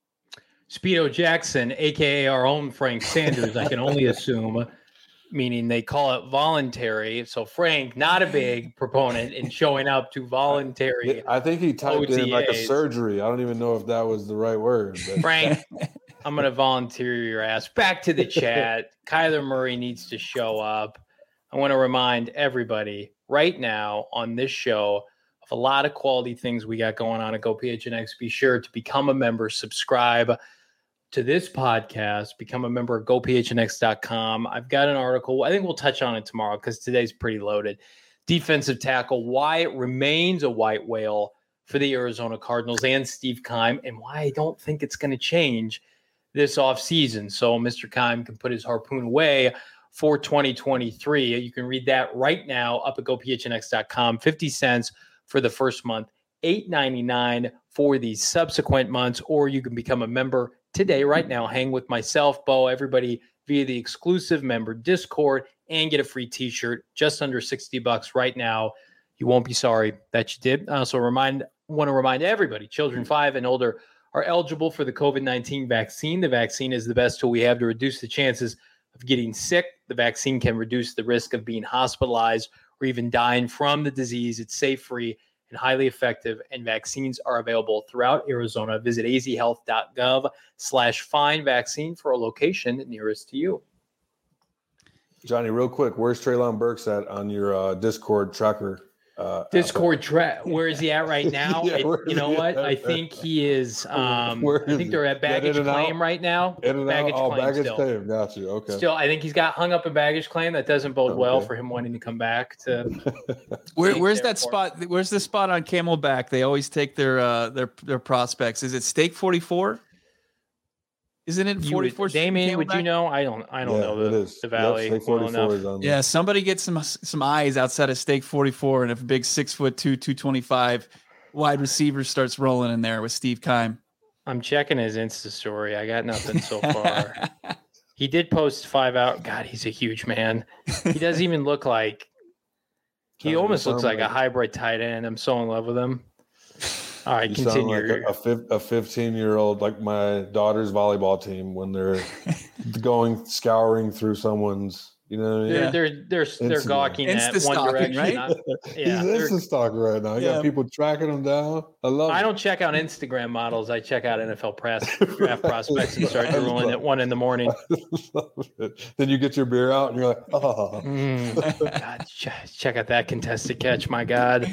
Speedo Jackson, a k a our own Frank Sanders, I can only assume, meaning they call it voluntary. So Frank, not a big proponent in showing up to voluntary I think he typed O T As. in like a surgery. I don't even know if that was the right word. But. Frank, I'm going to volunteer your ass. Back to the chat. Kyler Murray needs to show up. I want to remind everybody right now on this show of a lot of quality things we got going on at Go P H N X. Be sure to become a member, subscribe to this podcast, become a member of go p h n x dot com. I've got an article. I think we'll touch on it tomorrow because today's pretty loaded. Defensive tackle, why it remains a white whale for the Arizona Cardinals and Steve Keim, and why I don't think it's going to change this offseason. So Mister Keim can put his harpoon away for twenty twenty-three. You can read that right now up at go p h n x dot com. fifty cents for the first month, eight ninety-nine for the subsequent months, or you can become a member today, right now. Hang with myself, Bo, everybody via the exclusive member Discord and get a free t-shirt, just under sixty bucks right now. You won't be sorry that you did. I also remind, want to remind everybody, children five and older are eligible for the covid nineteen vaccine. The vaccine is the best tool we have to reduce the chances of getting sick. The vaccine can reduce the risk of being hospitalized or even dying from the disease. It's safe, free, and highly effective, and vaccines are available throughout Arizona. Visit a z health dot gov slash find vaccine for a location nearest to you. Johnny, real quick, where's Treylon Burks at on your uh, Discord tracker? Uh, Discord track. Where is he at right now? yeah, it, you know what? I think he is. Um, Where I think is they're at baggage claim out? right now. In and baggage out? Oh, claim baggage still. claim. Got you. Okay. Still, I think he's got hung up in baggage claim. That doesn't bode okay. well for him wanting to come back to. Where, where's that spot? Where's the spot on Camelback? They always take their uh, their their prospects. Is it Stake forty-four? Isn't it forty-four? Would, Damien, would you know? I don't. I don't yeah, know the, the valley yep, well enough. Yeah, somebody get some some eyes outside of Stake forty-four, and if a big six foot two, two twenty-five wide receiver starts rolling in there with Steve Keim. I'm checking his Insta story. I got nothing so far. He did post five out. God, he's a huge man. He doesn't even look like He almost looks like, like a hybrid tight end. I'm so in love with him. All right, you continue. Sound like a, a fifteen-year-old, like my daughter's volleyball team when they're going scouring through someone's, you know what I mean? They're they're they're, they're gawking at one direction, right? Not, yeah, he's Insta stalking right now. You yeah. got people tracking him down. I love it. I don't check out Instagram models. I check out N F L press, draft prospects and start drooling at one in the morning. Then you get your beer out and you're like, oh. Mm, God, check out that contested catch, my God.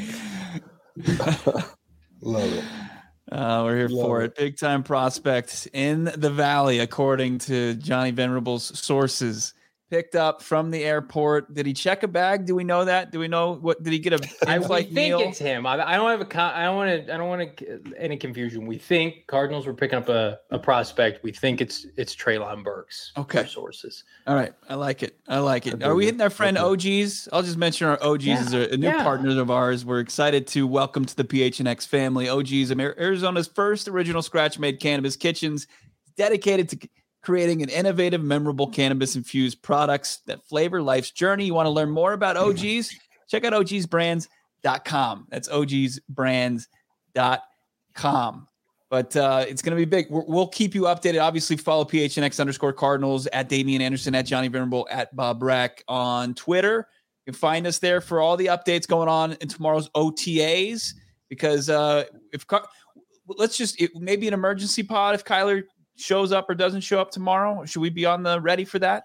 Love it. Uh, we're here Love for it. it. Big time prospect in the Valley, according to Johnny Venerable's sources. Picked up from the airport. Did he check a bag? Do we know that? Do we know what? Did he get a I we think meal? It's him. I, I don't have a. I don't want to. I don't want to any confusion. We think Cardinals were picking up a, a prospect. We think it's it's Treylon Burks. Okay. Sources. All right. I like it. I like it. Are we hitting our friend O Gs? I'll just mention our O Gs yeah. as a, a new yeah. partner of ours. We're excited to welcome to the P H N X family. O Gs, Arizona's first original scratch-made cannabis kitchens, dedicated to creating an innovative, memorable cannabis-infused products that flavor life's journey. You want to learn more about O Gs? Check out O Gs brands dot com. That's O Gs brands dot com. But uh, it's going to be big. We're, we'll keep you updated. Obviously, follow P H N X underscore Cardinals, at Damian Anderson, at Johnny Venerable, at Bob Brack on Twitter. You can find us there for all the updates going on in tomorrow's O T As. Because uh, if let's just it, maybe an emergency pod if Kyler shows up or doesn't show up tomorrow. Should we be on the ready for that?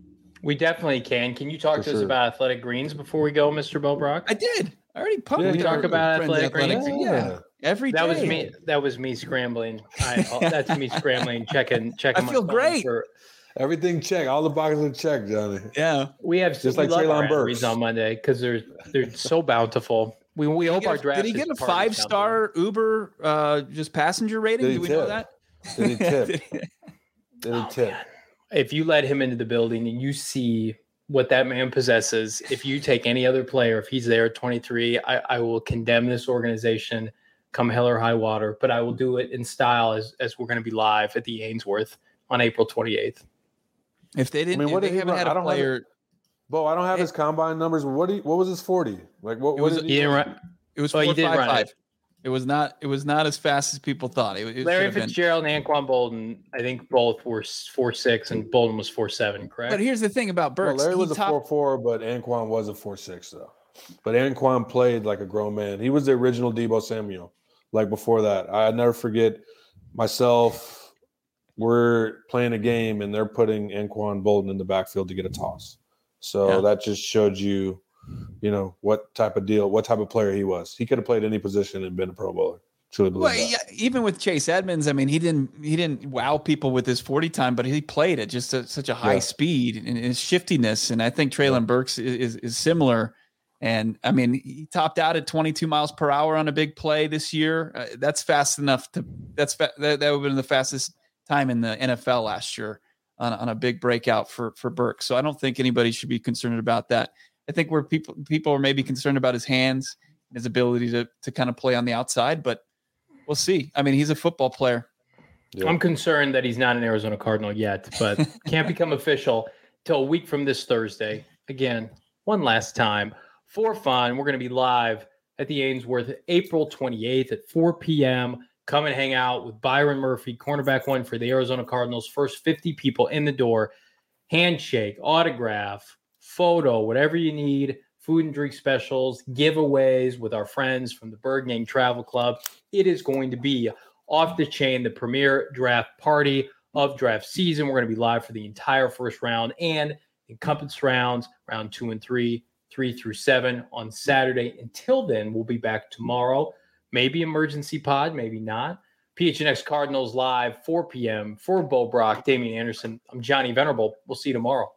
We definitely can. Can you talk for to sure. us about Athletic Greens before we go, Mister Bo Brock? I did. I already pumped. Yeah, we talk about Athletic, Athletic Greens. Greens. Yeah. Every that day. was me. That was me scrambling. I, that's me scrambling, checking, checking. I feel great. For, Everything checked. All the boxes are checked, Johnny. Yeah, we have just like Treylon Burks on Monday because they're they're so bountiful. We we hope our draft. Did he get a five star Uber uh, just passenger rating? Do we tip? know that? Did he tip? Did he oh, tip? Man. If you let him into the building and you see what that man possesses, if you take any other player, if he's there at twenty-three, I, I will condemn this organization come hell or high water, but I will do it in style as, as we're going to be live at the Ainsworth on April twenty-eighth. If they didn't, I mean, what if they haven't had a player. Bo, I don't have it, his combine numbers. What do you, what was his forty? Like what? It what was, did he he run, it was oh, four, he did five, run five. It. It was not. It was not as fast as people thought. It, it Larry Fitzgerald been. and Anquan Bolden, I think both were four six, and Bolden was four seven. Correct. But here's the thing about Burks. Well, Larry was top... a four four, but Anquan was a four six though. But Anquan played like a grown man. He was the original Deebo Samuel. Like before that, I never forget myself. We're playing a game and they're putting Anquan Bolden in the backfield to get a toss. So yeah. that just showed you, you know, what type of deal, what type of player he was. He could have played any position and been a Pro Bowler. Truly believe well, that. Yeah, even with Chase Edmonds, I mean, he didn't he didn't wow people with his forty time, but he played at just a, such a high yeah. speed and his shiftiness. And I think Treylon yeah. Burks is, is is similar. And I mean, he topped out at twenty-two miles per hour on a big play this year. Uh, that's fast enough to that's fa- that, that would have been the fastest time in the N F L last year on, on a big breakout for for Burks. So I don't think anybody should be concerned about that. I think where people people are maybe concerned about his hands and his ability to to kind of play on the outside, but we'll see. I mean, he's a football player. Yeah. I'm concerned that he's not an Arizona Cardinal yet, but can't become official till a week from this Thursday. Again, one last time. For fun, we're going to be live at the Ainsworth April twenty-eighth at four p.m. Come and hang out with Byron Murphy, cornerback one for the Arizona Cardinals. First fifty people in the door. Handshake, autograph, photo, whatever you need. Food and drink specials, giveaways with our friends from the Bird Gang Travel Club. It is going to be off the chain, the premier draft party of draft season. We're going to be live for the entire first round and encompass rounds, round two and three. Three through seven on Saturday. Until then, we'll be back tomorrow. Maybe emergency pod, maybe not. P H N X Cardinals live, four p.m. For Bo Brock, Damian Anderson. I'm Johnny Venerable. We'll see you tomorrow.